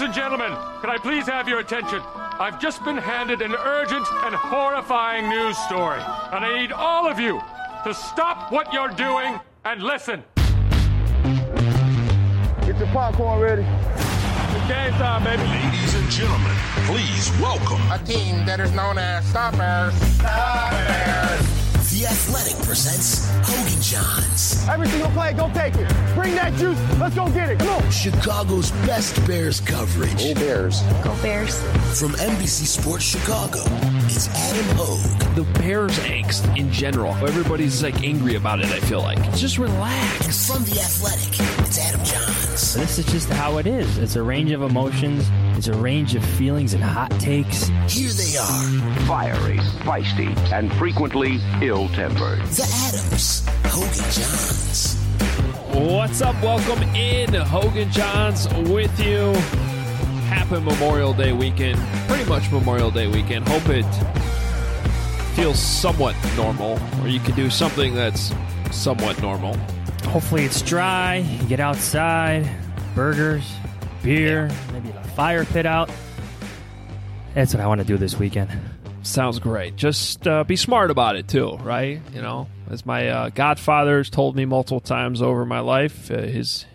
and gentlemen, can I please have your attention? I've just been handed an urgent and horrifying news story, and I need all of you to stop what you're doing and listen. Get your popcorn ready. Game's on, baby. Ladies and gentlemen, please welcome A team that is known as Stoppers. The Athletic presents Hogan Johns. Every single play, go take it. Bring that juice. Let's go get it. Come on. Chicago's best Bears coverage. Go Bears. Go Bears. From NBC Sports Chicago, it's Adam Hogue. The Bears angst in general. Everybody's like angry about it, I feel like. Just relax. And from The Athletic, it's Adam Johns. This is just how it is. It's a range of emotions. It's a range of feelings and hot takes. Here they are. Fiery, feisty, and frequently ill-tempered. The Adams. Hogan Johns. What's up? Welcome in. Hogan Johns with you. Happy Memorial Day weekend. Pretty much Memorial Day weekend. Hope it feels somewhat normal, or you can do something that's somewhat normal. Hopefully it's dry. You get outside. Burgers, beer, maybe a fire pit out. That's what I want to do this weekend. Sounds great. Just be smart about it, too, right? You know, as my godfather's told me multiple times over my life, his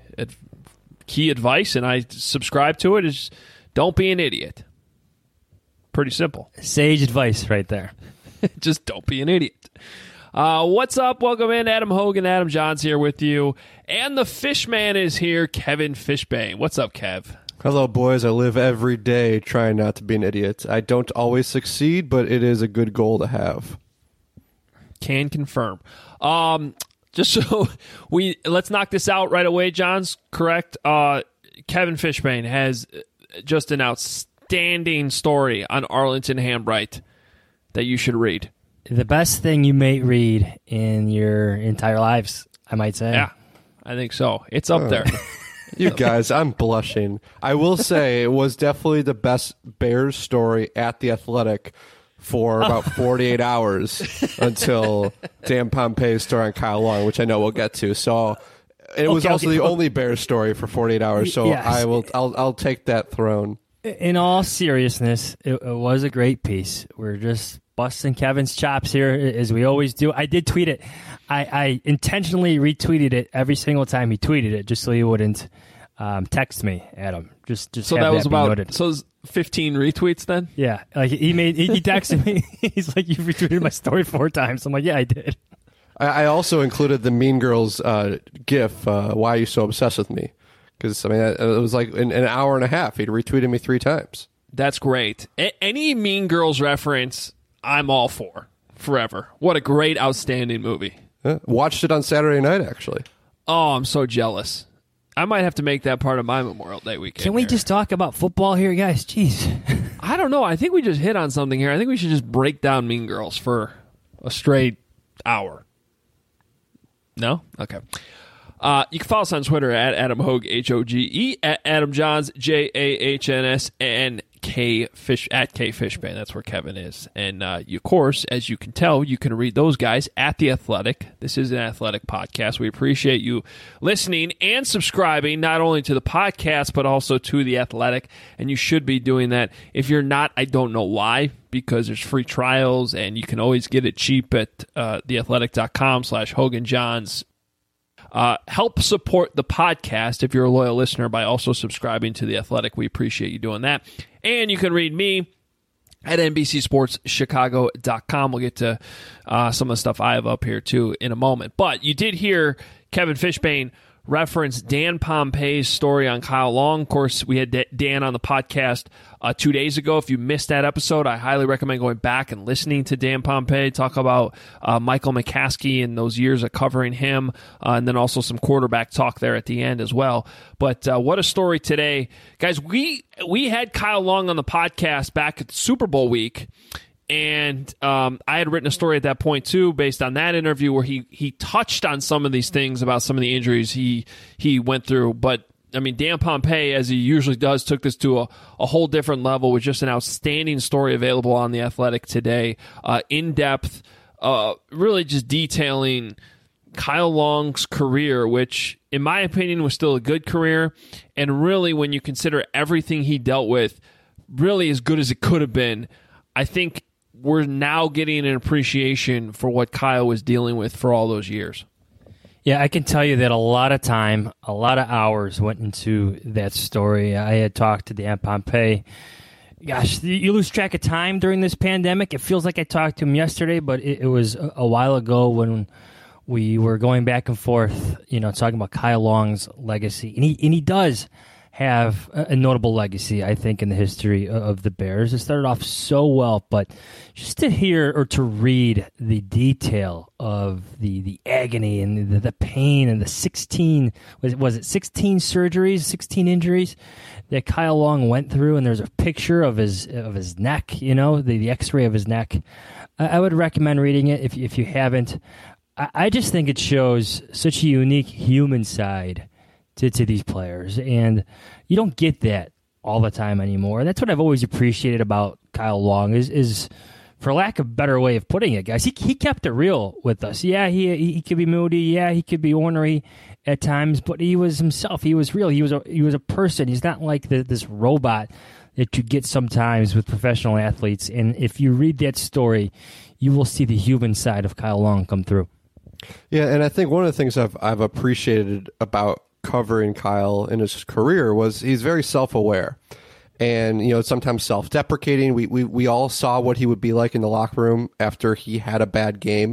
key advice, and I subscribe to it, is don't be an idiot. Pretty simple. Sage advice right there. Just don't be an idiot. What's up? Welcome in. Adam Hogan, Adam Johns here with you. And the Fishman is here, Kevin Fishbane. What's up, Kev? Hello, boys. I live every day trying not to be an idiot. I don't always succeed, but it is a good goal to have. Can confirm. Just so let's knock this out right away, Johns. Correct. Kevin Fishbane has just an outstanding story on Arlington Hambright that you should read. The best thing you may read in your entire lives, I might say. Yeah, I think so. It's up there. You guys, I'm blushing. I will say it was definitely the best Bears story at The Athletic for about 48 hours until Dan Pompei's story on Kyle Long, which I know we'll get to. So it was also the only Bears story for 48 hours. So yes. I'll take that throne. In all seriousness, it was a great piece. We're just busting Kevin's chops here, as we always do. I did tweet it. I intentionally retweeted it every single time he tweeted it, just so he wouldn't text me, Adam. Just so that was about 15 retweets then? Yeah, like he texted me. He's like, "You retweeted my story 4 times." I'm like, "Yeah, I did." I also included the Mean Girls GIF. Why are you so obsessed with me? Because I mean, it was like in an hour and a half. He'd retweeted me 3 times. That's great. Any Mean Girls reference, I'm all for forever. What a great, outstanding movie. Watched it on Saturday night, actually. Oh, I'm so jealous. I might have to make that part of my Memorial Day weekend. Can we just talk about football here, guys? Jeez. I don't know. I think we just hit on something here. I think we should just break down Mean Girls for a straight hour. No? Okay. You can follow us on Twitter at Adam Hogue, H-O-G-E, at Adam Johns, J-A-H-N-S, and at K Fishbane. That's where Kevin is. And you, of course, as you can tell, you can read those guys at The Athletic. This is an Athletic podcast. We appreciate you listening and subscribing, not only to the podcast, but also to The Athletic. And you should be doing that. If you're not, I don't know why, because there's free trials, and you can always get it cheap at theathletic.com/Hogan Johns. Help support the podcast if you're a loyal listener by also subscribing to The Athletic. We appreciate you doing that. And you can read me at NBCSportsChicago.com. We'll get to some of the stuff I have up here, too, in a moment. But you did hear Kevin Fishbane reference Dan Pompei's story on Kyle Long. Of course, we had Dan on the podcast 2 days ago. If you missed that episode, I highly recommend going back and listening to Dan Pompei talk about Michael McCaskey and those years of covering him, and then also some quarterback talk there at the end as well. But what a story today. Guys, we had Kyle Long on the podcast back at Super Bowl week, and I had written a story at that point, too, based on that interview where he touched on some of these things about some of the injuries he went through. But, I mean, Dan Pompei, as he usually does, took this to a whole different level with just an outstanding story available on The Athletic today. In-depth, really just detailing Kyle Long's career, which in my opinion was still a good career, and really when you consider everything he dealt with, really as good as it could have been, I think we're now getting an appreciation for what Kyle was dealing with for all those years. Yeah, I can tell you that a lot of time, a lot of hours went into that story. I had talked to Dan Pompei. Gosh, you lose track of time during this pandemic. It feels like I talked to him yesterday, but it was a while ago when we were going back and forth, talking about Kyle Long's legacy. And he does have a notable legacy, I think, in the history of the Bears. It started off so well, but just to hear or to read the detail of the agony and the pain and the 16 surgeries, 16 injuries that Kyle Long went through, and there's a picture of his neck, the X-ray of his neck. I would recommend reading it if you haven't. I just think it shows such a unique human side to these players, and you don't get that all the time anymore. And that's what I've always appreciated about Kyle Long is for lack of a better way of putting it, guys, he kept it real with us. Yeah, he could be moody. Yeah, he could be ornery at times, but he was himself. He was real. He was a person. He's not like this robot that you get sometimes with professional athletes. And if you read that story, you will see the human side of Kyle Long come through. Yeah, and I think one of the things I've appreciated about covering Kyle in his career was he's very self-aware and sometimes self-deprecating. We all saw what he would be like in the locker room after he had a bad game.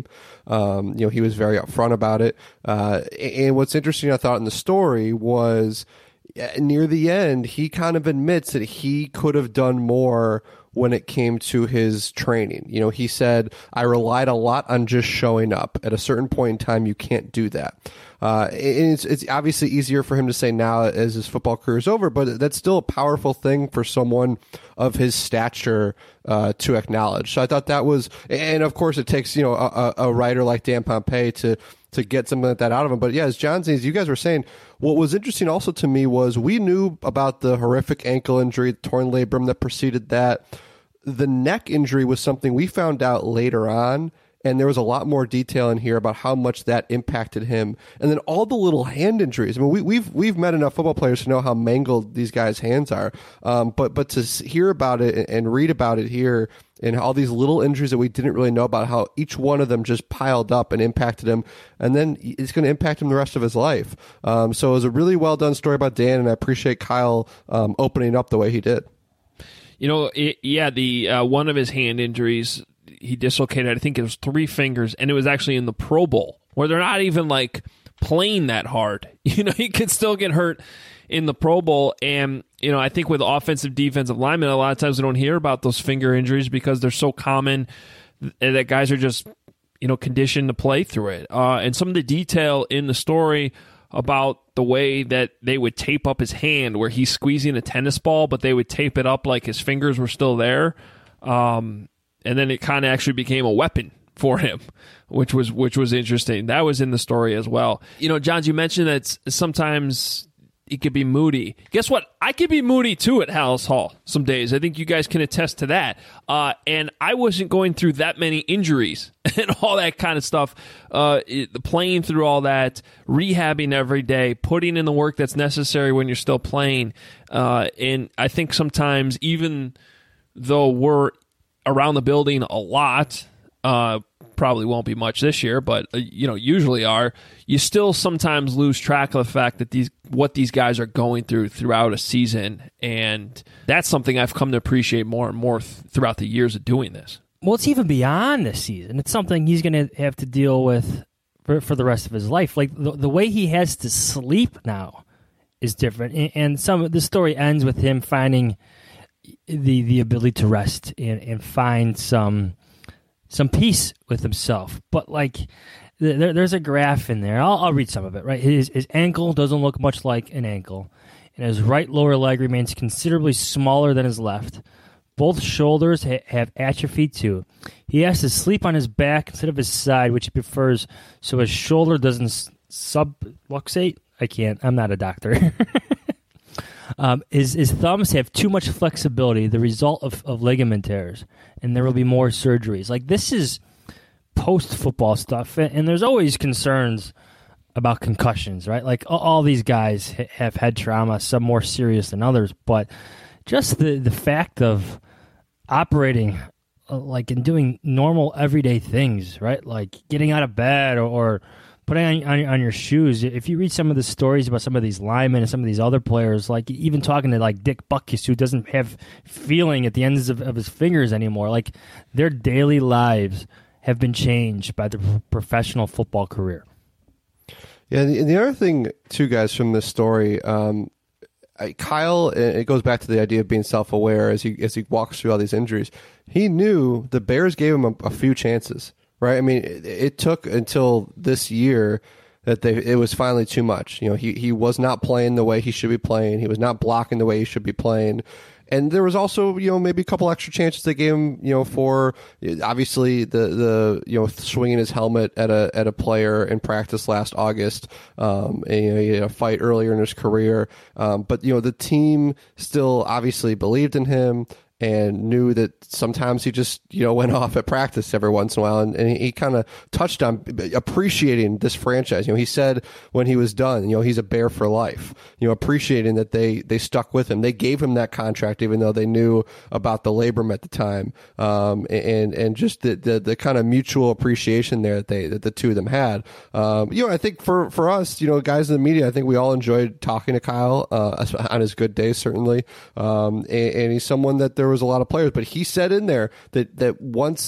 He was very upfront about it. And what's interesting, I thought, in the story was near the end, he kind of admits that he could have done more when it came to his training. He said, I relied a lot on just showing up. At a certain point in time, you can't do that. And it's obviously easier for him to say now as his football career is over, but that's still a powerful thing for someone of his stature to acknowledge. So I thought that was, and of course it takes, a writer like Dan Pompei to get something like that out of him. But yeah, as you guys were saying, what was interesting also to me was we knew about the horrific ankle injury, torn labrum that preceded that. The neck injury was something we found out later on, and there was a lot more detail in here about how much that impacted him. And then all the little hand injuries. I mean, we've met enough football players to know how mangled these guys' hands are. But to hear about it and read about it here, and all these little injuries that we didn't really know about, how each one of them just piled up and impacted him, and then it's going to impact him the rest of his life. So it was a really well done story about Dan, and I appreciate Kyle opening up the way he did. The one of his hand injuries, he dislocated, I think it was 3 fingers, and it was actually in the Pro Bowl, where they're not even playing that hard. He could still get hurt in the Pro Bowl, and I think with offensive, defensive linemen, a lot of times we don't hear about those finger injuries because they're so common that guys are just conditioned to play through it. And some of the detail in the story about the way that they would tape up his hand, where he's squeezing a tennis ball, but they would tape it up like his fingers were still there. And then it kind of actually became a weapon for him, which was interesting. That was in the story as well. Johns, you mentioned that sometimes he could be moody. Guess what? I could be moody too at Hallis Hall some days. I think you guys can attest to that. And I wasn't going through that many injuries and all that kind of stuff. Playing through all that, rehabbing every day, putting in the work that's necessary when you're still playing. And I think sometimes, even though we're around the building a lot, probably won't be much this year, but usually are, you still sometimes lose track of the fact that what these guys are going throughout a season, and that's something I've come to appreciate more and more throughout the years of doing this. Well, it's even beyond this season. It's something he's going to have to deal with for the rest of his life. Like the way he has to sleep now is different, and the story ends with him finding the ability to rest and find some peace with himself. But there's a graph in there. I'll read some of it. Right, his ankle doesn't look much like an ankle, and his right lower leg remains considerably smaller than his left. Both shoulders have atrophy too. He has to sleep on his back instead of his side, which he prefers, so his shoulder doesn't subluxate. I'm not a doctor. His thumbs have too much flexibility, the result of ligament tears, and there will be more surgeries. This is post-football stuff, and there's always concerns about concussions, right? Like all these guys have head trauma, some more serious than others, but just the fact of operating like and doing normal everyday things, right? Like getting out of bed or putting on your shoes. If you read some of the stories about some of these linemen and some of these other players, like even talking to like Dick Butkus, who doesn't have feeling at the ends of his fingers anymore, like their daily lives have been changed by the professional football career. Yeah, and the other thing, too, guys, from this story, Kyle, it goes back to the idea of being self-aware as he walks through all these injuries. He knew the Bears gave him a few chances, right? I mean, it took until this year that it was finally too much. You know, he was not playing the way he should be playing. He was not blocking the way he should be playing. And there was also, you know, maybe a couple extra chances they gave him, you know, for obviously the you know, swinging his helmet at a player in practice last August. And, you know, he had a fight earlier in his career. But, you know, the team still obviously believed in him and knew that sometimes he just, you know, went off at practice every once in a while. And he kind of touched on appreciating this franchise. You know, he said when he was done, you know, he's a Bear for life, you know, appreciating that they stuck with him. They gave him that contract, even though they knew about the labrum at the time. And just the kind of mutual appreciation there that the two of them had. You know, I think for us, you know, guys in the media, I think we all enjoyed talking to Kyle, on his good days, certainly. And he's someone that there was a lot of players, but he said in there that once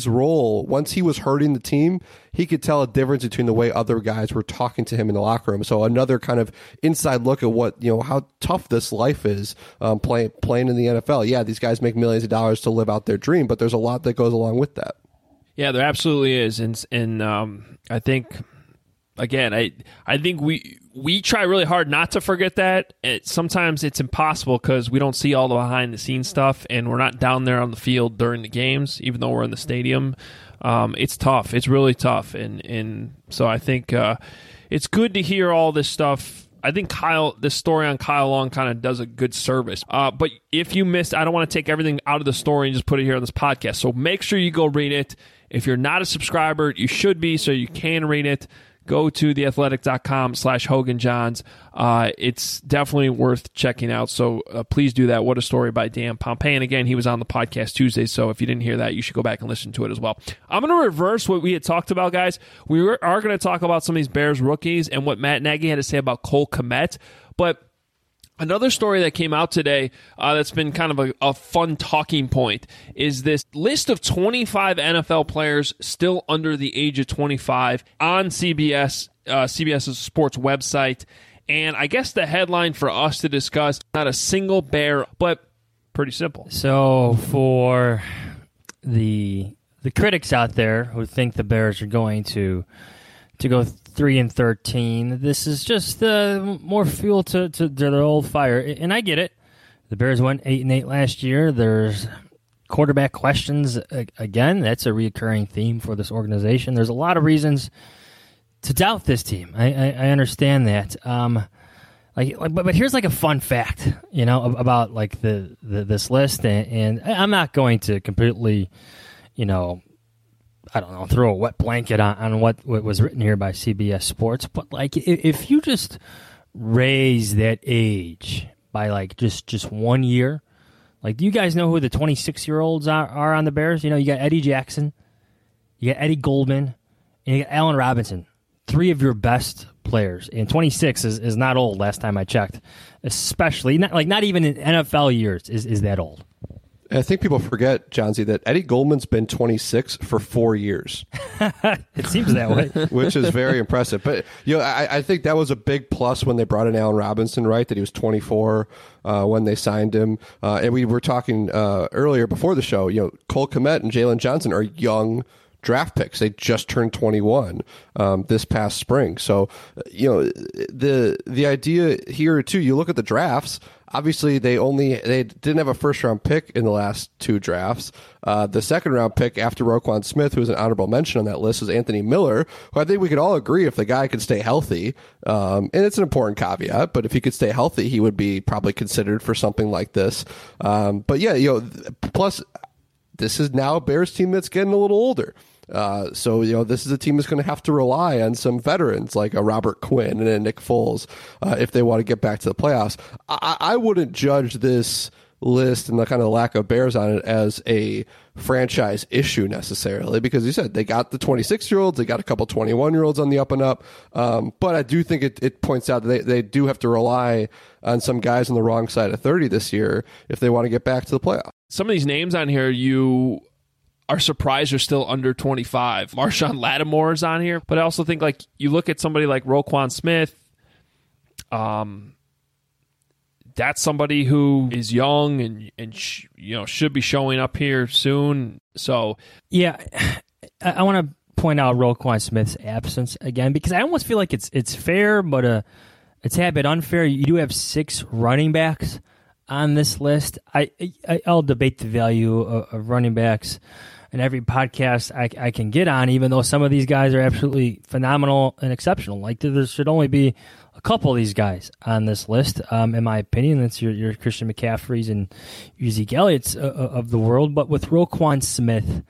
he was hurting the team, he could tell a difference between the way other guys were talking to him in the locker room. So another kind of inside look at what, you know, how tough this life is, playing in the NFL. Yeah, these guys make millions of dollars to live out their dream, but there's a lot that goes along with that. Yeah, there absolutely is. And I think, again, I think we try really hard not to forget that. Sometimes it's impossible because we don't see all the behind-the-scenes stuff, and we're not down there on the field during the games, even though we're in the stadium. It's tough. It's really tough. And so I think it's good to hear all this stuff. I think this story on Kyle Long kind of does a good service. But if you missed, I don't want to take everything out of the story and just put it here on this podcast. So make sure you go read it. If you're not a subscriber, you should be, so you can read it. Go to theathletic.com/HoganJohns. It's definitely worth checking out. So please do that. What a story by Dan Pompei. And again, he was on the podcast Tuesday. So if you didn't hear that, you should go back and listen to it as well. I'm going to reverse what we had talked about, guys. We are going to talk about some of these Bears rookies and what Matt Nagy had to say about Cole Kmet. But another story that came out today that's been kind of a fun talking point is this list of 25 NFL players still under the age of 25 on CBS's sports website. And I guess the headline for us to discuss, not a single Bear, but pretty simple. So for the critics out there who think the Bears are going to go 3-13, this is just more fuel to their old fire. And I get it. The Bears went 8-8 last year. There's quarterback questions again. That's a reoccurring theme for this organization. There's a lot of reasons to doubt this team. I understand that. But here's like a fun fact, you know, about like this list, and I'm not going to completely, you know, I don't know, throw a wet blanket on what was written here by CBS Sports, but like if you just raise that age by like just 1 year, like, do you guys know who the 26-year-olds are on the Bears? You know, you got Eddie Jackson, you got Eddie Goldman, and you got Allen Robinson, three of your best players. And 26 is not old last time I checked, especially not even in NFL years is that old. I think people forget, Johnsy, that Eddie Goldman's been 26 for 4 years. It seems that way. Which is very impressive. But, you know, I think that was a big plus when they brought in Allen Robinson, right, that he was 24 when they signed him. And we were talking earlier before the show, you know, Cole Kmet and Jalen Johnson are young draft picks. They just turned 21 this past spring. So, you know, the idea here, too, you look at the drafts. Obviously, they didn't have a first-round pick in the last two drafts. The second-round pick after Roquan Smith, who was an honorable mention on that list, was Anthony Miller, who I think we could all agree if the guy could stay healthy, and it's an important caveat, but if he could stay healthy, he would be probably considered for something like this. But yeah, you know, plus this is now a Bears team that's getting a little older. So, this is a team that's going to have to rely on some veterans like a Robert Quinn and a Nick Foles if they want to get back to the playoffs. I wouldn't judge this list and the kind of lack of Bears on it as a franchise issue necessarily, because you said they got the 26-year-olds, they got a couple 21-year-olds on the up and up. But I do think it points out that they do have to rely on some guys on the wrong side of 30 this year if they want to get back to the playoffs. Some of these names on here you are surprised are still under 25. Marshawn Lattimore is on here, but I also think like you look at somebody like Roquan Smith. That's somebody who is young and should be showing up here soon. So yeah, I want to point out Roquan Smith's absence again, because I almost feel like it's fair, but it's a bit unfair. You do have 6 running backs on this list. I'll debate the value of running backs in every podcast I can get on, even though some of these guys are absolutely phenomenal and exceptional. Like there should only be a couple of these guys on this list, in my opinion. That's your Christian McCaffreys and your Zeke Elliott's of the world. But with Roquan Smith,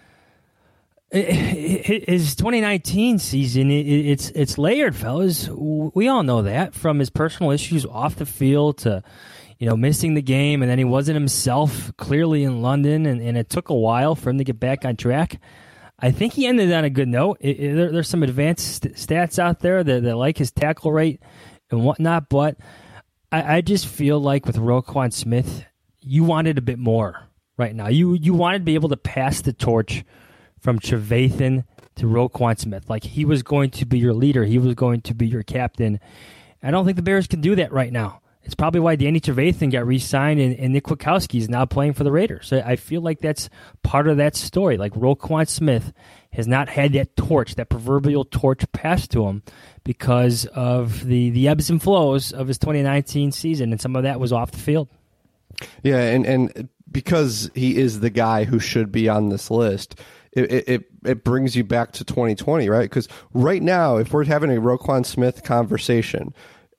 his 2019 season, it's layered, fellas. We all know that, from his personal issues off the field to missing the game, and then he wasn't himself clearly in London, and it took a while for him to get back on track. I think he ended on a good note. There's some advanced stats out there that like his tackle rate and whatnot, but I just feel like with Roquan Smith, you wanted a bit more right now. You wanted to be able to pass the torch from Trevathan to Roquan Smith. Like, he was going to be your leader. He was going to be your captain. I don't think the Bears can do that right now. It's probably why Danny Trevathan got re-signed and Nick Kwiatkowski is now playing for the Raiders. So I feel like that's part of that story. Like, Roquan Smith has not had that torch, that proverbial torch passed to him because of the ebbs and flows of his 2019 season, and some of that was off the field. Yeah, and because he is the guy who should be on this list, it brings you back to 2020, right? Because right now, if we're having a Roquan Smith conversation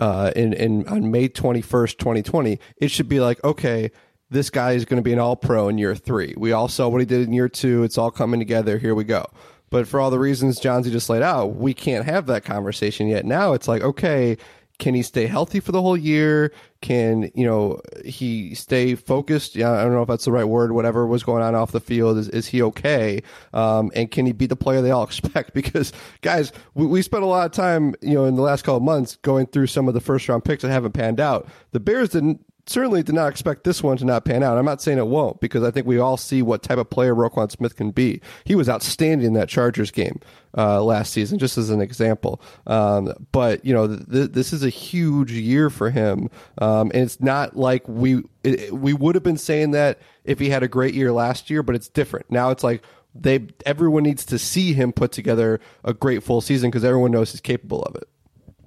on May 21st, 2020, it should be like, okay, this guy is going to be an all-pro in year 3. We all saw what he did in year 2. It's all coming together. Here we go. But for all the reasons Johnsy just laid out, we can't have that conversation yet. Now it's like, okay, can he stay healthy for the whole year? Can, he stay focused? I don't know if that's the right word. Whatever was going on off the field, is he okay? And can he be the player they all expect? Because, guys, we spent a lot of time, in the last couple of months going through some of the first-round picks that haven't panned out. The Bears certainly did not expect this one to not pan out. I'm not saying it won't, because I think we all see what type of player Roquan Smith can be. He was outstanding in that Chargers game last season, just as an example. But this is a huge year for him, and it's not like we would have been saying that if he had a great year last year, but it's different now. It's like everyone needs to see him put together a great full season because everyone knows he's capable of it.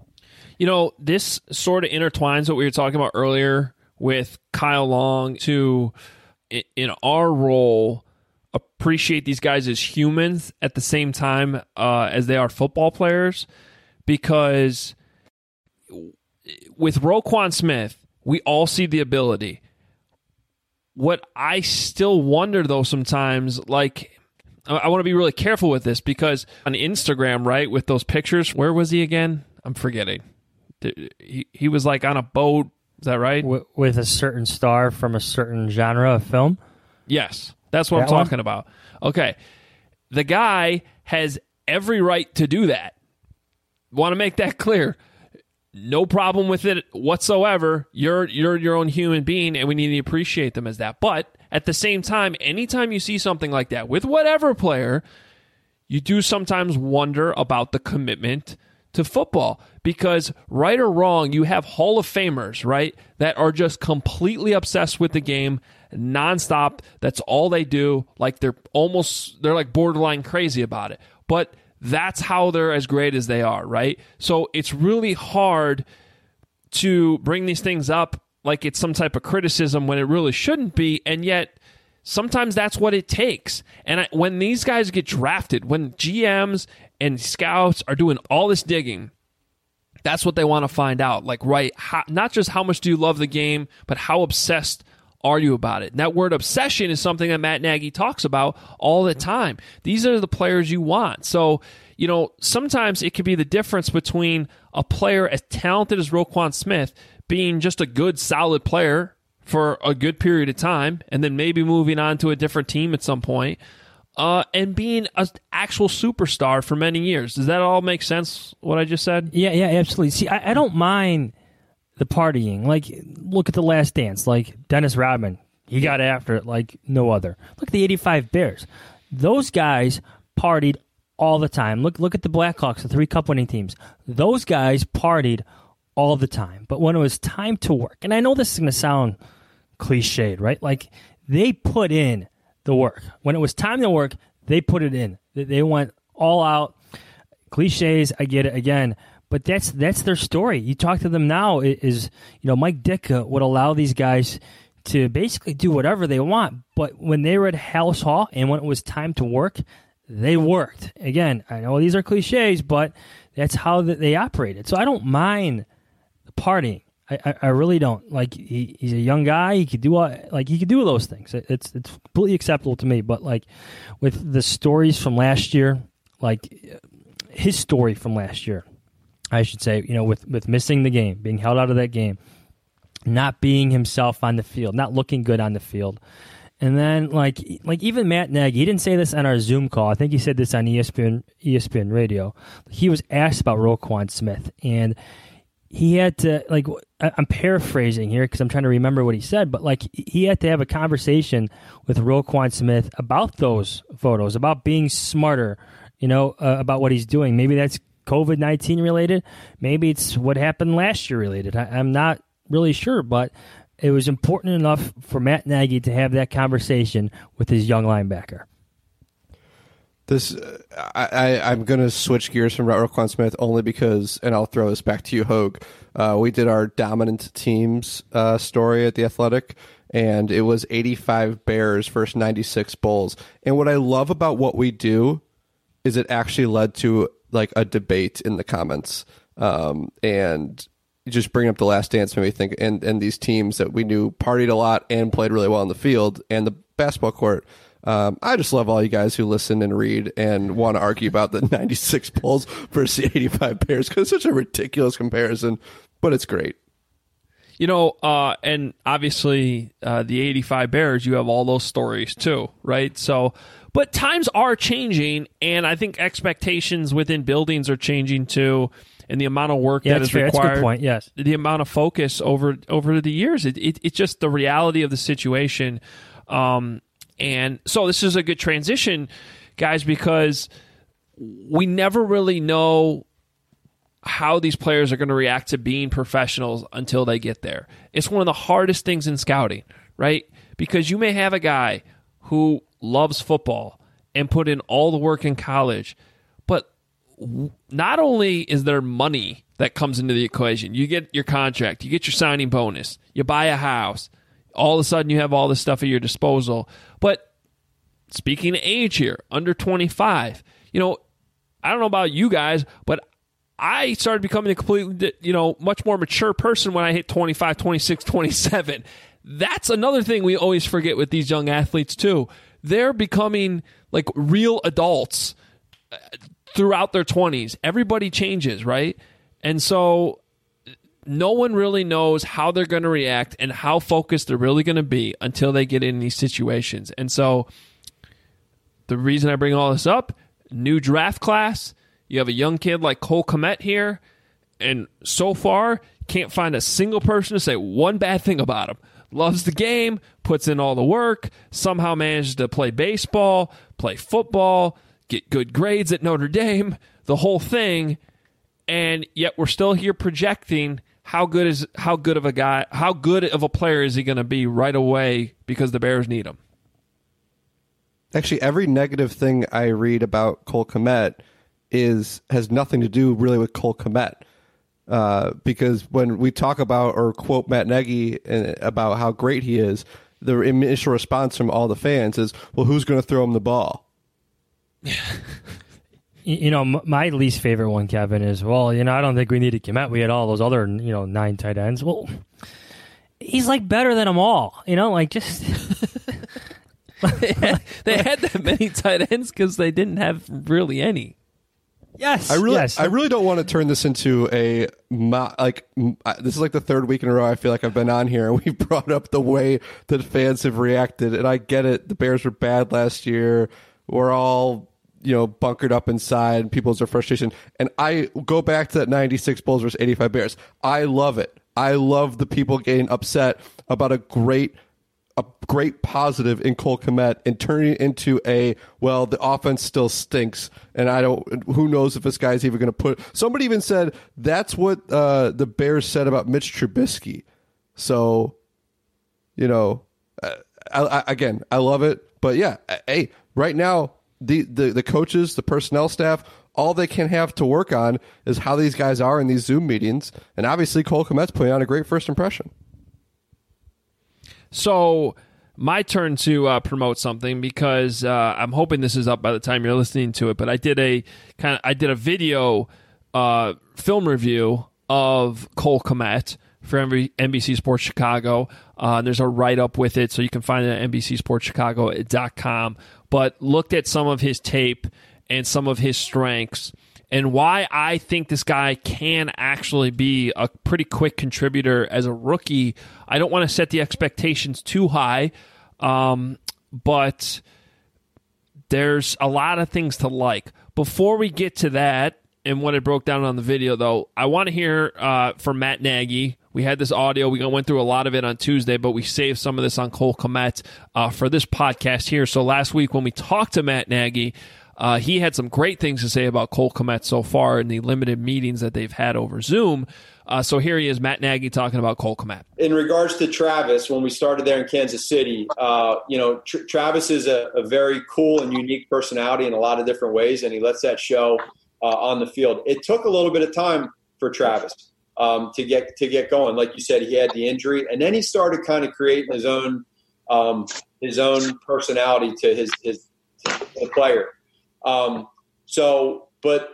This sort of intertwines what we were talking about earlier with Kyle Long to, in our role, appreciate these guys as humans at the same time as they are football players. Because with Roquan Smith, we all see the ability. What I still wonder, though, sometimes, like, I want to be really careful with this, because on Instagram, right, with those pictures, where was he again? I'm forgetting. He was like on a boat. Is that right? With a certain star from a certain genre of film? Yes, that's what I'm talking about. Okay. The guy has every right to do that. Want to make that clear. No problem with it whatsoever. You're your own human being, and we need to appreciate them as that. But at the same time, anytime you see something like that with whatever player, you do sometimes wonder about the commitment to football, because right or wrong, you have Hall of Famers, right, that are just completely obsessed with the game nonstop. That's all they do. Like they're like borderline crazy about it. But that's how they're as great as they are, right? So it's really hard to bring these things up like it's some type of criticism when it really shouldn't be, and yet sometimes that's what it takes. And when these guys get drafted, when GMs and scouts are doing all this digging, that's what they want to find out. Like, right, not just how much do you love the game, but how obsessed argue about it. And that word obsession is something that Matt Nagy talks about all the time. These are the players you want. So, sometimes it could be the difference between a player as talented as Roquan Smith being just a good, solid player for a good period of time and then maybe moving on to a different team at some point, and being an actual superstar for many years. Does that all make sense, what I just said? Yeah, absolutely. See, I don't mind the partying. Like, look at The Last Dance. Like, Dennis Rodman, he got after it like no other. Look at the 85 Bears. Those guys partied all the time. Look at the Blackhawks, the 3 Cup-winning teams. Those guys partied all the time. But when it was time to work, and I know this is going to sound cliched, right? Like, they put in the work. When it was time to work, they put it in. They went all out. Cliches, I get it again. But that's their story. You talk to them now, Mike Ditka would allow these guys to basically do whatever they want. But when they were at Hallis Hall and when it was time to work, they worked. Again, I know these are cliches, but that's how they operated. So I don't mind partying. I really don't. Like, he's a young guy. He could do those things. It's completely acceptable to me. But like with the stories from last year, like his story from last year, I should say, with missing the game, being held out of that game, not being himself on the field, not looking good on the field. And then like even Matt Nagy, he didn't say this on our Zoom call. I think he said this on ESPN radio. He was asked about Roquan Smith, and he had to, like, I'm paraphrasing here because I'm trying to remember what he said, but like he had to have a conversation with Roquan Smith about those photos, about being smarter, about what he's doing. Maybe that's COVID-19 related. Maybe it's what happened last year related. I'm not really sure, but it was important enough for Matt Nagy to have that conversation with his young linebacker. I'm going to switch gears from Roquan Smith only because, and I'll throw this back to you, Hogue. We did our dominant teams story at The Athletic, and it was 85 Bears versus 96 Bulls. And what I love about what we do is it actually led to like a debate in the comments. And just bring up The Last Dance made me think, and these teams that we knew partied a lot and played really well on the field and the basketball court. I just love all you guys who listen and read and want to argue about the 96 Bulls versus the 85 Bears because it's such a ridiculous comparison, but it's great. And obviously the 85 Bears, you have all those stories too, right? So, but times are changing, and I think expectations within buildings are changing too, and the amount of work that is required. That's a good point, yes. The amount of focus over the years. It's just the reality of the situation. And so this is a good transition, guys, because we never really know how these players are going to react to being professionals until they get there. It's one of the hardest things in scouting, right? Because you may have a guy who loves football and put in all the work in college, but not only is there money that comes into the equation, you get your contract, you get your signing bonus, you buy a house, all of a sudden you have all this stuff at your disposal. But speaking of age here, under 25, I don't know about you guys, but I started becoming a completely, much more mature person when I hit 25, 26, 27. That's another thing we always forget with these young athletes too. They're becoming like real adults throughout their 20s. Everybody changes, right? And so no one really knows how they're going to react and how focused they're really going to be until they get in these situations. And so the reason I bring all this up, new draft class, you have a young kid like Cole Kmet here, and so far can't find a single person to say one bad thing about him. Loves the game, puts in all the work, somehow manages to play baseball, play football, get good grades at Notre Dame, the whole thing, and yet we're still here projecting how good of a player is he going to be right away because the Bears need him. Actually, every negative thing I read about Cole Kmet has nothing to do really with Cole Kmet. Because when we talk about or quote Matt Nagy about how great he is, the initial response from all the fans is, well, who's going to throw him the ball? My least favorite one, Kevin, is, well, I don't think we needed Kmet. We had all those other, 9 tight ends. Well, he's like better than them all. Like just. They had that many tight ends because they didn't have really any. Yes, I really don't want to turn this into this is like the third week in a row I feel like I've been on here and we brought up the way that fans have reacted, and I get it. The Bears were bad last year. We're all bunkered up inside. People's frustration, and I go back to that 96 Bulls versus 85 Bears. I love it. I love the people getting upset about a great positive in Cole Kmet and turning it into the offense still stinks, and who knows if this guy's even going to put. Somebody even said that's what the Bears said about Mitch Trubisky. So, I love it, but yeah, hey, right now the coaches, the personnel staff, all they can have to work on is how these guys are in these Zoom meetings, and obviously Cole Kmet's putting on a great first impression. So, my turn to promote something because I'm hoping this is up by the time you're listening to it. But I did a video film review of Cole Kmet for NBC Sports Chicago. There's a write-up with it, so you can find it at NBCSportsChicago.com. But looked at some of his tape and some of his strengths, and why I think this guy can actually be a pretty quick contributor as a rookie. I don't want to set the expectations too high, but there's a lot of things to like. Before we get to that and what I broke down on the video, though, I want to hear from Matt Nagy. We had this audio. We went through a lot of it on Tuesday, but we saved some of this on Cole Kmet for this podcast here. So last week when we talked to Matt Nagy, he had some great things to say about Cole Kmet so far in the limited meetings that they've had over Zoom. So here he is, Matt Nagy, talking about Cole Kmet. In regards to Travis, when we started there in Kansas City, Travis is a very cool and unique personality in a lot of different ways, and he lets that show on the field. It took a little bit of time for Travis to get going. Like you said, he had the injury, and then he started kind of creating his own personality to his player. But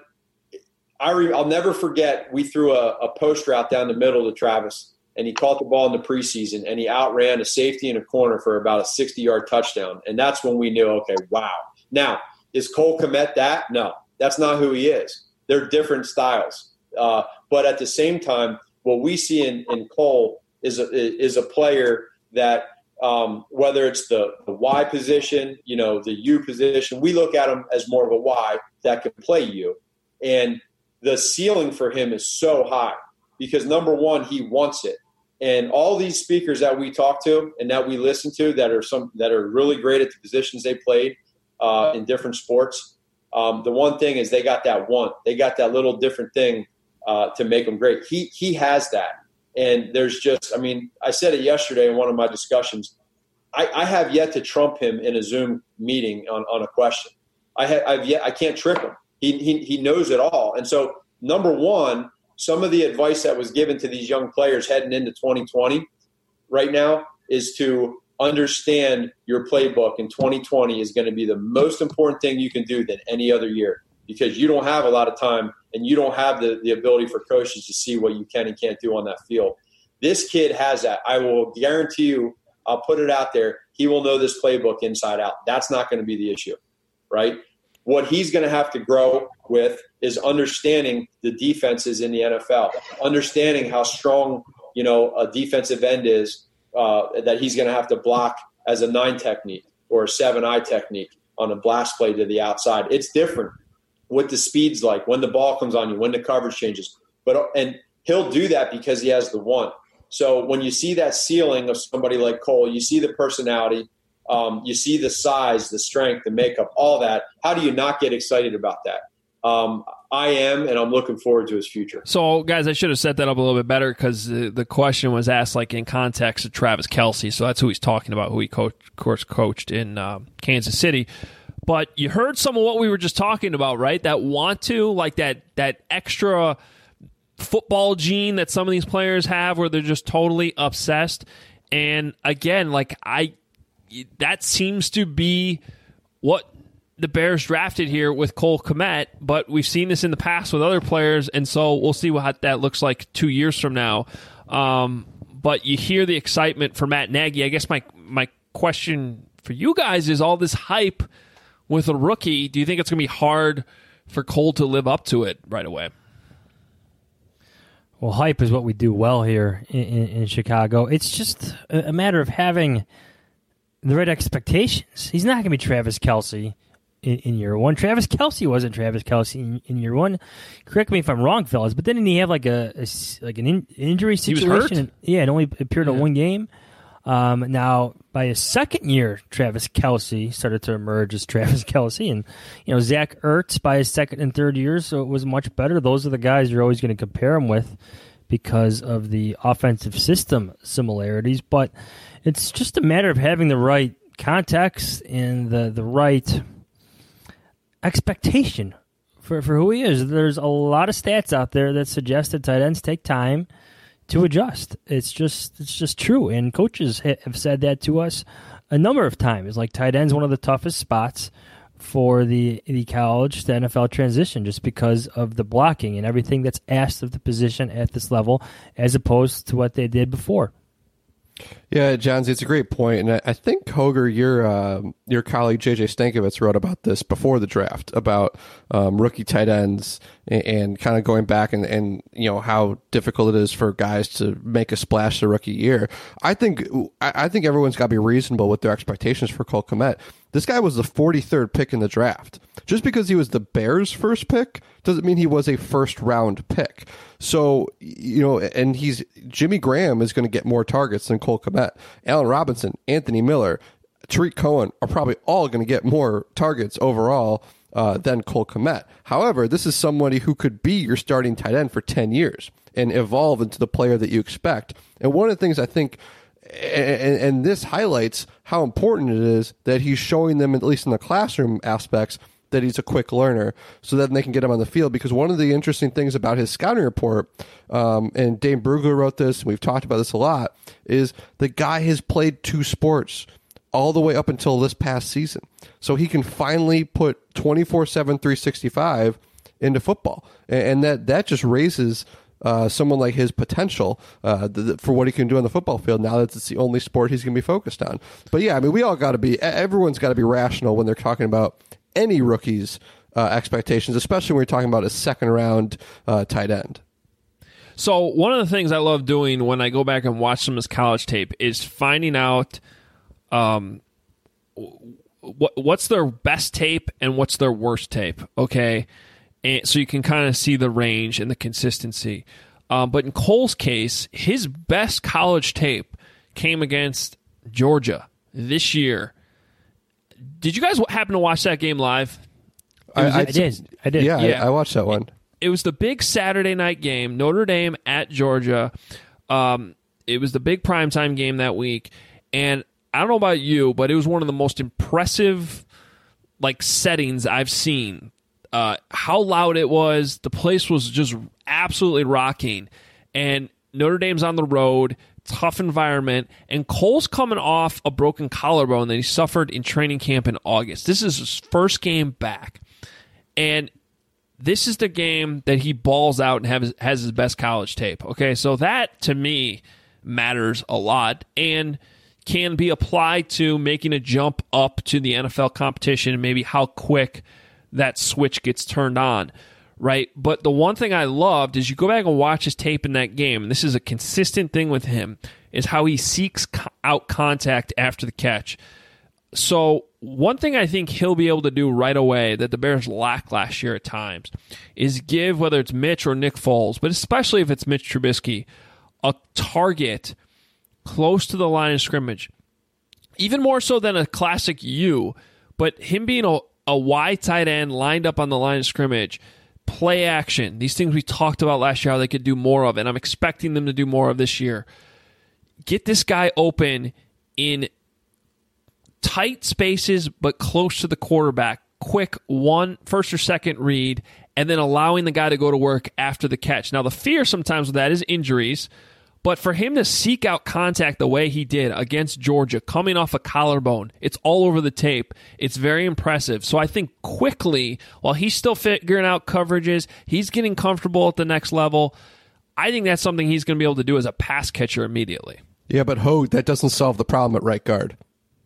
I'll never forget, we threw a post route down the middle to Travis, and he caught the ball in the preseason, and he outran a safety in a corner for about a 60-yard touchdown. And that's when we knew, okay, wow. Now, is Cole Kmet that? No, that's not who he is. They're different styles. But at the same time, what we see in Cole is a player that, whether it's the Y position, the U position, we look at him as more of a Y that can play U. And the ceiling for him is so high because, number one, he wants it. And all these speakers that we talk to and that we listen to that are really great at the positions they played in different sports, the one thing is they got that want. They got that little different thing to make them great. He has that. And there's just, I said it yesterday in one of my discussions. I have yet to trump him in a Zoom meeting on a question. I can't trick him. He knows it all. And so, number one, some of the advice that was given to these young players heading into 2020 right now is to understand your playbook in 2020 is going to be the most important thing you can do than any other year because you don't have a lot of time and you don't have the ability for coaches to see what you can and can't do on that field. This kid has that. I will guarantee you, I'll put it out there, he will know this playbook inside out. That's not going to be the issue, right? What he's going to have to grow with is understanding the defenses in the NFL, understanding how strong, a defensive end is that he's going to have to block as a 9 technique or a 7-eye technique on a blast play to the outside. It's different what the speed's like, when the ball comes on you, when the coverage changes. And he'll do that because he has the want. So when you see that ceiling of somebody like Cole, you see the personality, you see the size, the strength, the makeup, all that. How do you not get excited about that? I am, and I'm looking forward to his future. So, guys, I should have set that up a little bit better because the question was asked in context of Travis Kelce. So that's who he's talking about, who he coached in Kansas City. But you heard some of what we were just talking about, right? That want to, that extra football gene that some of these players have where they're just totally obsessed. And again, that seems to be what the Bears drafted here with Cole Kmet, but we've seen this in the past with other players, and so we'll see what that looks like 2 years from now. but you hear the excitement for Matt Nagy. I guess my question for you guys is all this hype with a rookie. Do you think it's going to be hard for Cole to live up to it right away? Well, hype is what we do well here in Chicago. It's just a matter of having the right expectations. He's not going to be Travis Kelce in year one. Travis Kelce wasn't Travis Kelce in year one. Correct me if I'm wrong, fellas, but didn't he have like an injury situation? He was hurt? It only appeared in one game. Now, by his second year, Travis Kelce started to emerge as Travis Kelce. And, Zach Ertz by his second and third years, so it was much better. Those are the guys you're always going to compare him with because of the offensive system similarities. But it's just a matter of having the right context and the right expectation for who he is. There's a lot of stats out there that suggest that tight ends take time to adjust. It's just true, and coaches have said that to us a number of times. Like, tight end's one of the toughest spots for the college to NFL transition, just because of the blocking and everything that's asked of the position at this level, as opposed to what they did before. Yeah, Johnsy, it's a great point, and I think Hoger, your colleague JJ Stankovitz wrote about this before the draft about rookie tight ends and kind of going back and how difficult it is for guys to make a splash their rookie year. I think everyone's got to be reasonable with their expectations for Cole Kmet. This guy was the 43rd pick in the draft. Just because he was the Bears' first pick doesn't mean he was a first-round pick. So, and Jimmy Graham is going to get more targets than Cole Kmet. Allen Robinson, Anthony Miller, Tariq Cohen are probably all going to get more targets overall than Cole Kmet. However, this is somebody who could be your starting tight end for 10 years and evolve into the player that you expect. And one of the things I think, and this highlights how important it is that he's showing them, at least in the classroom aspects, that he's a quick learner so that they can get him on the field. Because one of the interesting things about his scouting report, and Dane Brugler wrote this, and we've talked about this a lot, is the guy has played 2 sports all the way up until this past season. So he can finally put 24/7, 365 into football. And that just raises someone like his potential for what he can do on the football field now that it's the only sport he's going to be focused on. But yeah, I mean, everyone's got to be rational when they're talking about any rookie's expectations, especially when we're talking about a second-round tight end. So one of the things I love doing when I go back and watch some of his college tape is finding out what's their best tape and what's their worst tape, okay? And so you can kind of see the range and the consistency. But in Cole's case, his best college tape came against Georgia this year. Did you guys happen to watch that game live? I did. Yeah, I watched that one. It was the big Saturday night game, Notre Dame at Georgia. It was the big primetime game that week. And I don't know about you, but it was one of the most impressive settings I've seen. How loud it was. The place was just absolutely rocking. And Notre Dame's on the road. Tough environment, and Cole's coming off a broken collarbone that he suffered in training camp in August. This is his first game back, and this is the game that he balls out and has his best college tape. Okay, so that to me matters a lot and can be applied to making a jump up to the NFL competition and maybe how quick that switch gets turned on. Right, but the one thing I loved is you go back and watch his tape in that game, and this is a consistent thing with him, is how he seeks out contact after the catch. So one thing I think he'll be able to do right away that the Bears lacked last year at times is give, whether it's Mitch or Nick Foles, but especially if it's Mitch Trubisky, a target close to the line of scrimmage. Even more so than a classic U, but him being a wide tight end lined up on the line of scrimmage, play action, these things we talked about last year, how they could do more of, and I'm expecting them to do more of this year. Get this guy open in tight spaces, but close to the quarterback. Quick first or second read, and then allowing the guy to go to work after the catch. Now, the fear sometimes with that is injuries, but for him to seek out contact the way he did against Georgia, coming off a collarbone, it's all over the tape. It's very impressive. So I think quickly, while he's still figuring out coverages, he's getting comfortable at the next level, I think that's something he's going to be able to do as a pass catcher immediately. Yeah, but Hogue, that doesn't solve the problem at right guard.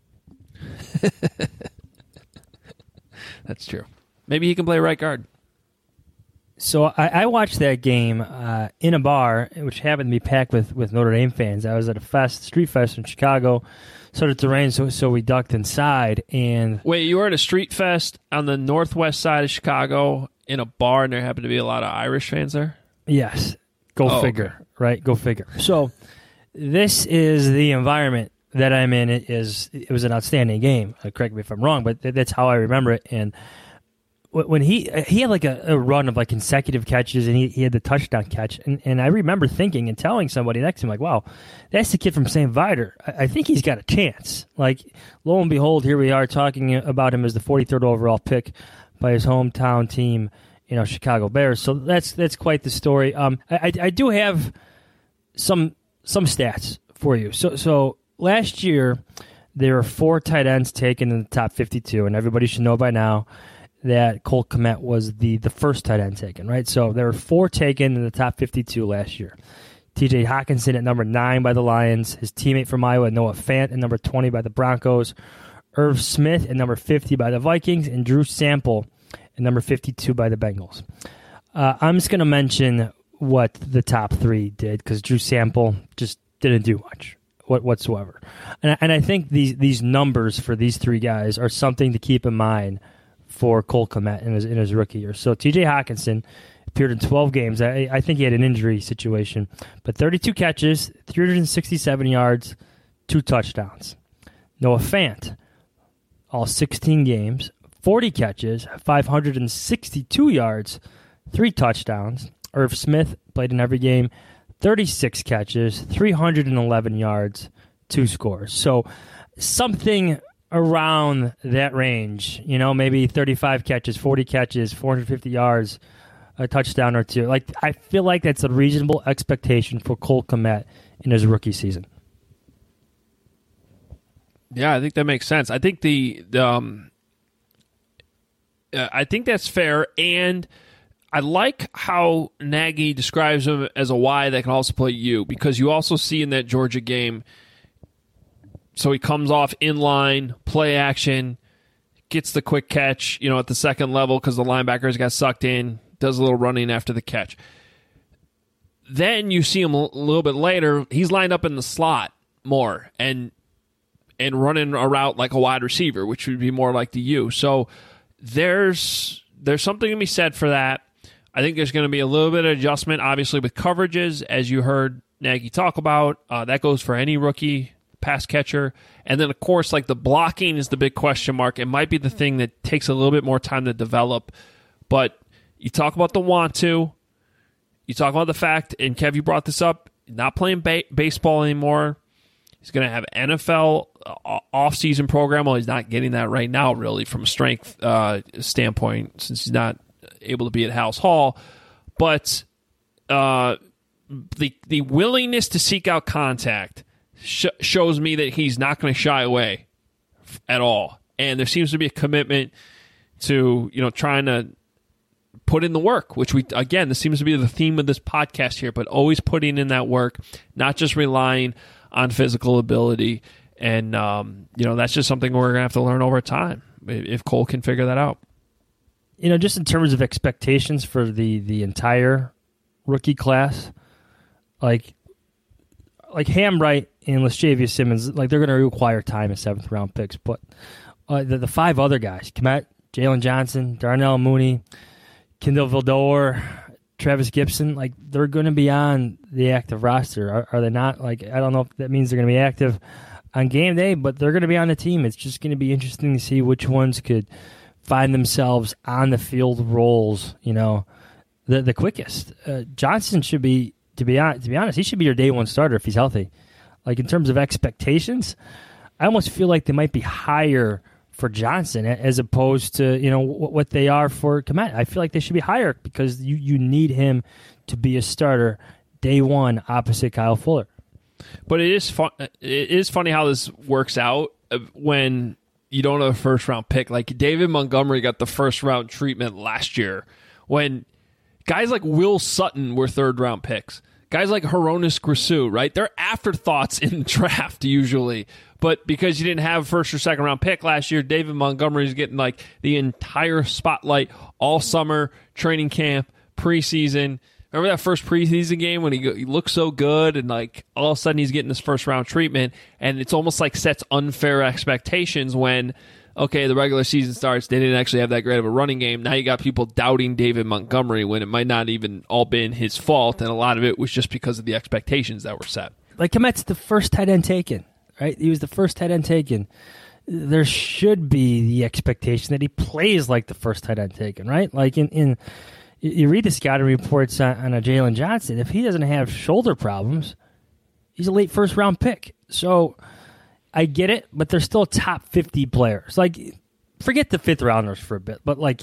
That's true. Maybe he can play right guard. So I watched that game in a bar, which happened to be packed with Notre Dame fans. I was at a street fest in Chicago. Started to rain, so we ducked inside. And wait, you were at a street fest on the northwest side of Chicago in a bar, and there happened to be a lot of Irish fans there? Yes. Go figure, okay. Right? Go figure. So this is the environment that I'm in. It was an outstanding game. Correct me if I'm wrong, but that's how I remember it. And when he had like a run of like consecutive catches, and he had the touchdown catch, and I remember thinking and telling somebody next to him, like, wow, that's the kid from St. Viator. I think he's got a chance. Like, lo and behold, here we are talking about him as the 43rd overall pick by his hometown team, Chicago Bears. So that's quite the story. I do have some stats for you. So last year there were 4 tight ends taken in the top 52, and everybody should know by now that Cole Kmet was the first tight end taken, right? So there were 4 taken in the top 52 last year. TJ Hawkinson at number 9 by the Lions, his teammate from Iowa, Noah Fant, at number 20 by the Broncos, Irv Smith at number 50 by the Vikings, and Drew Sample at number 52 by the Bengals. I'm just going to mention what the top 3 did, because Drew Sample just didn't do much whatsoever. And I think these numbers for these 3 guys are something to keep in mind for Cole Kmet in his rookie year. So TJ Hawkinson appeared in 12 games. I think he had an injury situation, but 32 catches, 367 yards, 2 touchdowns. Noah Fant, all 16 games, 40 catches, 562 yards, 3 touchdowns. Irv Smith played in every game, 36 catches, 311 yards, 2 scores. So something around that range, maybe 35 catches, 40 catches, 450 yards, a touchdown or 2. Like, I feel like that's a reasonable expectation for Cole Kmet in his rookie season. Yeah, I think that makes sense. I think I think that's fair, and I like how Nagy describes him as a Y that can also play U, because you also see in that Georgia game, so he comes off inline, play action, gets the quick catch, at the second level because the linebackers got sucked in, does a little running after the catch. Then you see him a little bit later, he's lined up in the slot more and running a route like a wide receiver, which would be more like the U. So there's something to be said for that. I think there's going to be a little bit of adjustment, obviously, with coverages, as you heard Nagy talk about. That goes for any rookie pass catcher. And then, of course, like the blocking is the big question mark. It might be the thing that takes a little bit more time to develop. But you talk about the want to. You talk about the fact, and Kev, you brought this up, not playing baseball anymore. He's going to have NFL off-season program. Well, he's not getting that right now, really, from a strength standpoint, since he's not able to be at House Hall. But the willingness to seek out contact shows me that he's not going to shy away at all. And there seems to be a commitment to, trying to put in the work, which this seems to be the theme of this podcast here, but always putting in that work, not just relying on physical ability. And, that's just something we're going to have to learn over time if Cole can figure that out. Just in terms of expectations for the entire rookie class, like Hambright and Laschavious Simmons, like, they're going to require time as 7th-round picks. But the 5 other guys, Kmet, Jalen Johnson, Darnell Mooney, Kindle Vildor, Travis Gibson, like, they're going to be on the active roster. Are they not? Like, I don't know if that means they're going to be active on game day, but they're going to be on the team. It's just going to be interesting to see which ones could find themselves on the field roles, the quickest. Johnson should be, to be honest, he should be your day one starter if he's healthy. Like, in terms of expectations, I almost feel like they might be higher for Johnson as opposed to, what they are for Kmet. I feel like they should be higher because you need him to be a starter day one opposite Kyle Fuller. But it is fun. It is funny how this works out when you don't have a first-round pick. Like, David Montgomery got the first-round treatment last year when guys like Will Sutton were third-round picks. guys like Hronis Grisou, right? They're afterthoughts in the draft usually. But because you didn't have first or second round pick last year, David Montgomery's getting like the entire spotlight all summer, training camp, preseason. Remember that first preseason game when he looked so good and like all of a sudden he's getting this first round treatment, and it's almost like sets unfair expectations when, okay, the regular season starts, they didn't actually have that great of a running game. Now you got people doubting David Montgomery when it might not even all been his fault, and a lot of it was just because of the expectations that were set. Like Kmet's the first tight end taken, right? He was the first tight end taken. There should be the expectation that he plays like the first tight end taken, right? Like in you read the scouting reports on a Jalen Johnson. If he doesn't have shoulder problems, he's a late first round pick. So I get it, but they're still top 50 players. Like, forget the fifth rounders for a bit, but like,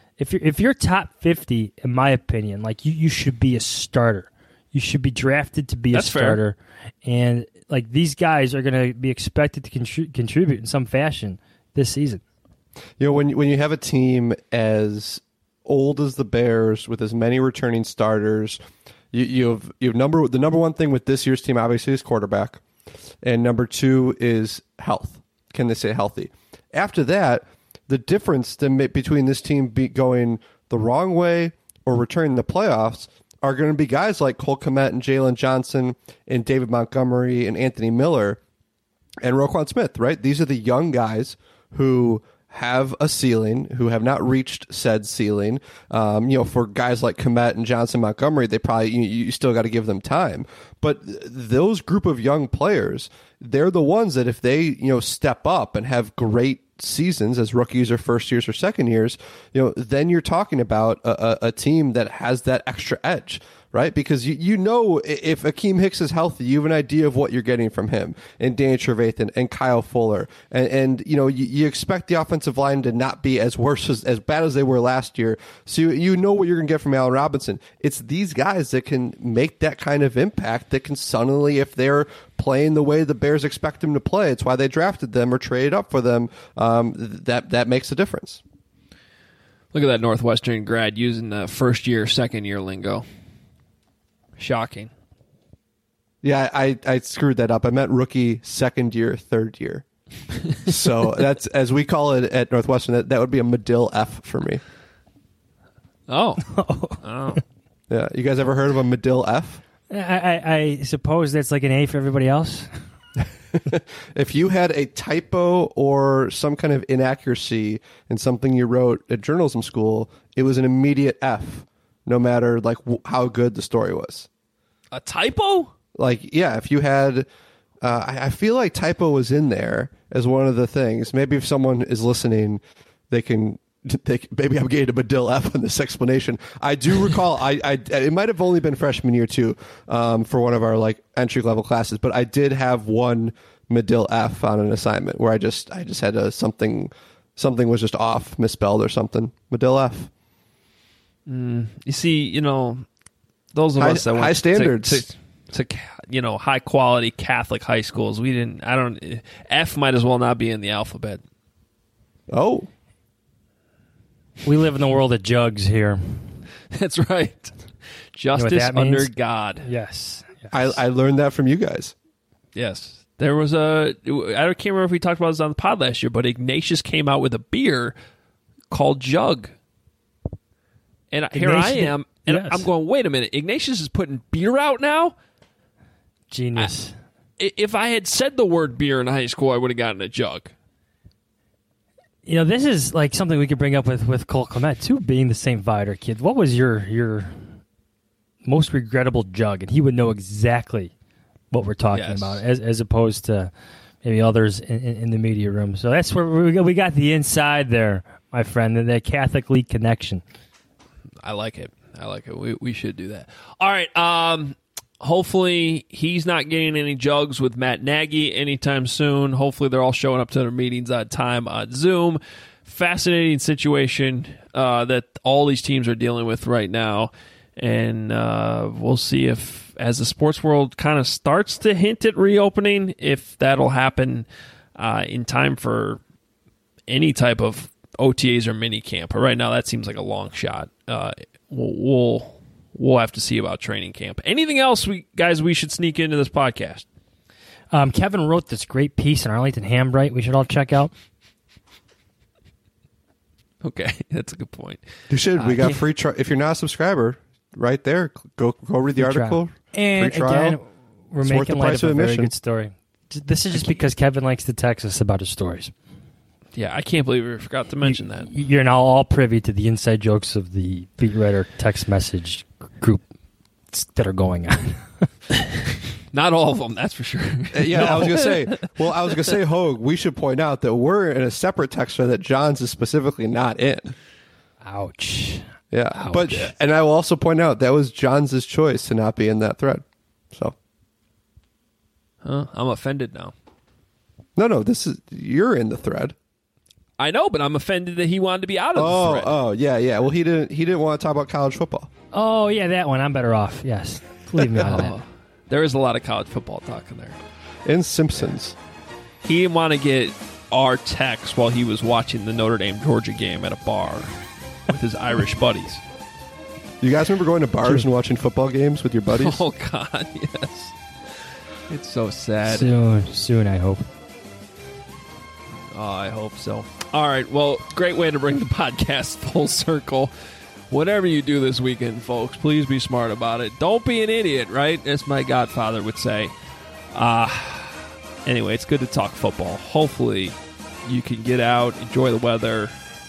if you're top 50, in my opinion, like you should be a starter. You should be drafted to be a starter, and like these guys are going to be expected to contribute in some fashion this season. You know, when you have a team as old as the Bears with as many returning starters, you have the number one thing with this year's team obviously is quarterback, and number two is health. Can they stay healthy? After that, the difference between this team going the wrong way or returning the playoffs are going to be guys like Cole Kmet and Jalen Johnson and David Montgomery and Anthony Miller and Roquan Smith, right? These are the young guys who have a ceiling, who have not reached said ceiling. For guys like Kmet and Johnson Montgomery, they probably you still got to give them time. But those group of young players, they're the ones that if they step up and have great seasons as rookies or first years or second years, then you're talking about a team that has that extra edge. Right? Because if Akeem Hicks is healthy, you have an idea of what you're getting from him, and Danny Trevathan and Kyle Fuller. And you expect the offensive line to not be as bad as they were last year. So you know what you're going to get from Allen Robinson. It's these guys that can make that kind of impact, that can suddenly, if they're playing the way the Bears expect them to play, it's why they drafted them or traded up for them, that makes a difference. Look at that Northwestern grad using the first year, second year lingo. Shocking. Yeah, I screwed that up. I meant rookie, second year, third year. So that's, as we call it at Northwestern, that would be a Medill F for me. Oh. Yeah, you guys ever heard of a Medill F? I suppose that's like an A for everybody else. If you had a typo or some kind of inaccuracy in something you wrote at journalism school, it was an immediate F. No matter like how good the story was. A typo? Like, yeah, if you had, I feel like typo was in there as one of the things. Maybe if someone is listening, maybe I'm getting a Medill F on this explanation. I do recall, it might have only been freshman year too, for one of our like entry level classes, but I did have one Medill F on an assignment where I just had something was just off, misspelled or something. Medill F. You see, those of us that went high standards to high quality Catholic high schools, F might as well not be in the alphabet. Oh, we live in the world of jugs here. That's right. Justice under God. Yes. I learned that from you guys. Yes. There was I can't remember if we talked about this on the pod last year, but Ignatius came out with a beer called Jug. And here I am, and yes. I'm going, wait a minute, Ignatius is putting beer out now? Genius. If I had said the word beer in high school, I would have gotten a jug. This is like something we could bring up with Cole Kmet, too, being the St. Viator kid. What was your most regrettable jug? And he would know exactly what we're talking about, as opposed to maybe others in the media room. So that's where we got the inside there, my friend, and that Catholic League connection. I like it. We should do that. All right. Hopefully he's not getting any jugs with Matt Nagy anytime soon. Hopefully they're all showing up to their meetings on time on Zoom. Fascinating situation that all these teams are dealing with right now. And we'll see if, as the sports world kind of starts to hint at reopening, if that'll happen in time for any type of OTAs or mini camp. But right now, that seems like a long shot. We'll we'll have to see about training camp. Anything else, we should sneak into this podcast? Kevin wrote this great piece in Arlington Hambright we should all check out. Okay, that's a good point. You should. We got free trial. If you're not a subscriber, right there, go read the article. And free trial. again, we're making light of a very good story. This is just because Kevin likes to text us about his stories. Yeah, I can't believe we forgot to mention that. You're now all privy to the inside jokes of the Beat Writer text message group that are going on. Not all of them, that's for sure. Yeah, no. I was gonna say, Hogue, we should point out that we're in a separate text thread that John's is specifically not in. Ouch. Yeah, Ouch. And I will also point out that was John's choice to not be in that thread. So, I'm offended now. No, you're in the thread. I know, but I'm offended that he wanted to be out of the thread. Oh, yeah. Well, he didn't want to talk about college football. Oh, yeah, that one. I'm better off. Yes, leave me out of that. There is a lot of college football talk in there. And Simpsons. He didn't want to get our text while he was watching the Notre Dame-Georgia game at a bar with his Irish buddies. You guys remember going to bars and watching football games with your buddies? Oh, God, yes. It's so sad. Soon, I hope. Oh, I hope so. All right, well, great way to bring the podcast full circle. Whatever you do this weekend, folks, please be smart about it. Don't be an idiot, right? As my godfather would say. Anyway, it's good to talk football. Hopefully, you can get out, enjoy the weather,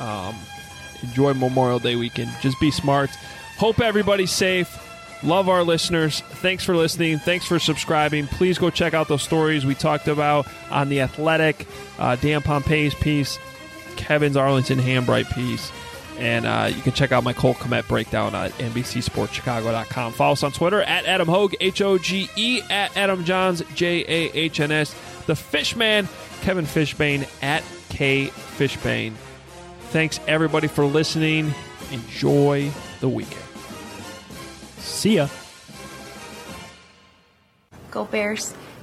enjoy Memorial Day weekend. Just be smart. Hope everybody's safe. Love our listeners. Thanks for listening. Thanks for subscribing. Please go check out those stories we talked about on The Athletic, Dan Pompeii's piece, Kevin's Arlington Hambright piece. And you can check out my Cole Kmet breakdown at NBCSportsChicago.com. Follow us on Twitter at Adam Hogue, Hoge, at Adam Johns, Jahns. The Fishman, Kevin Fishbane, at K Fishbane. Thanks, everybody, for listening. Enjoy the weekend. See ya. Go Bears.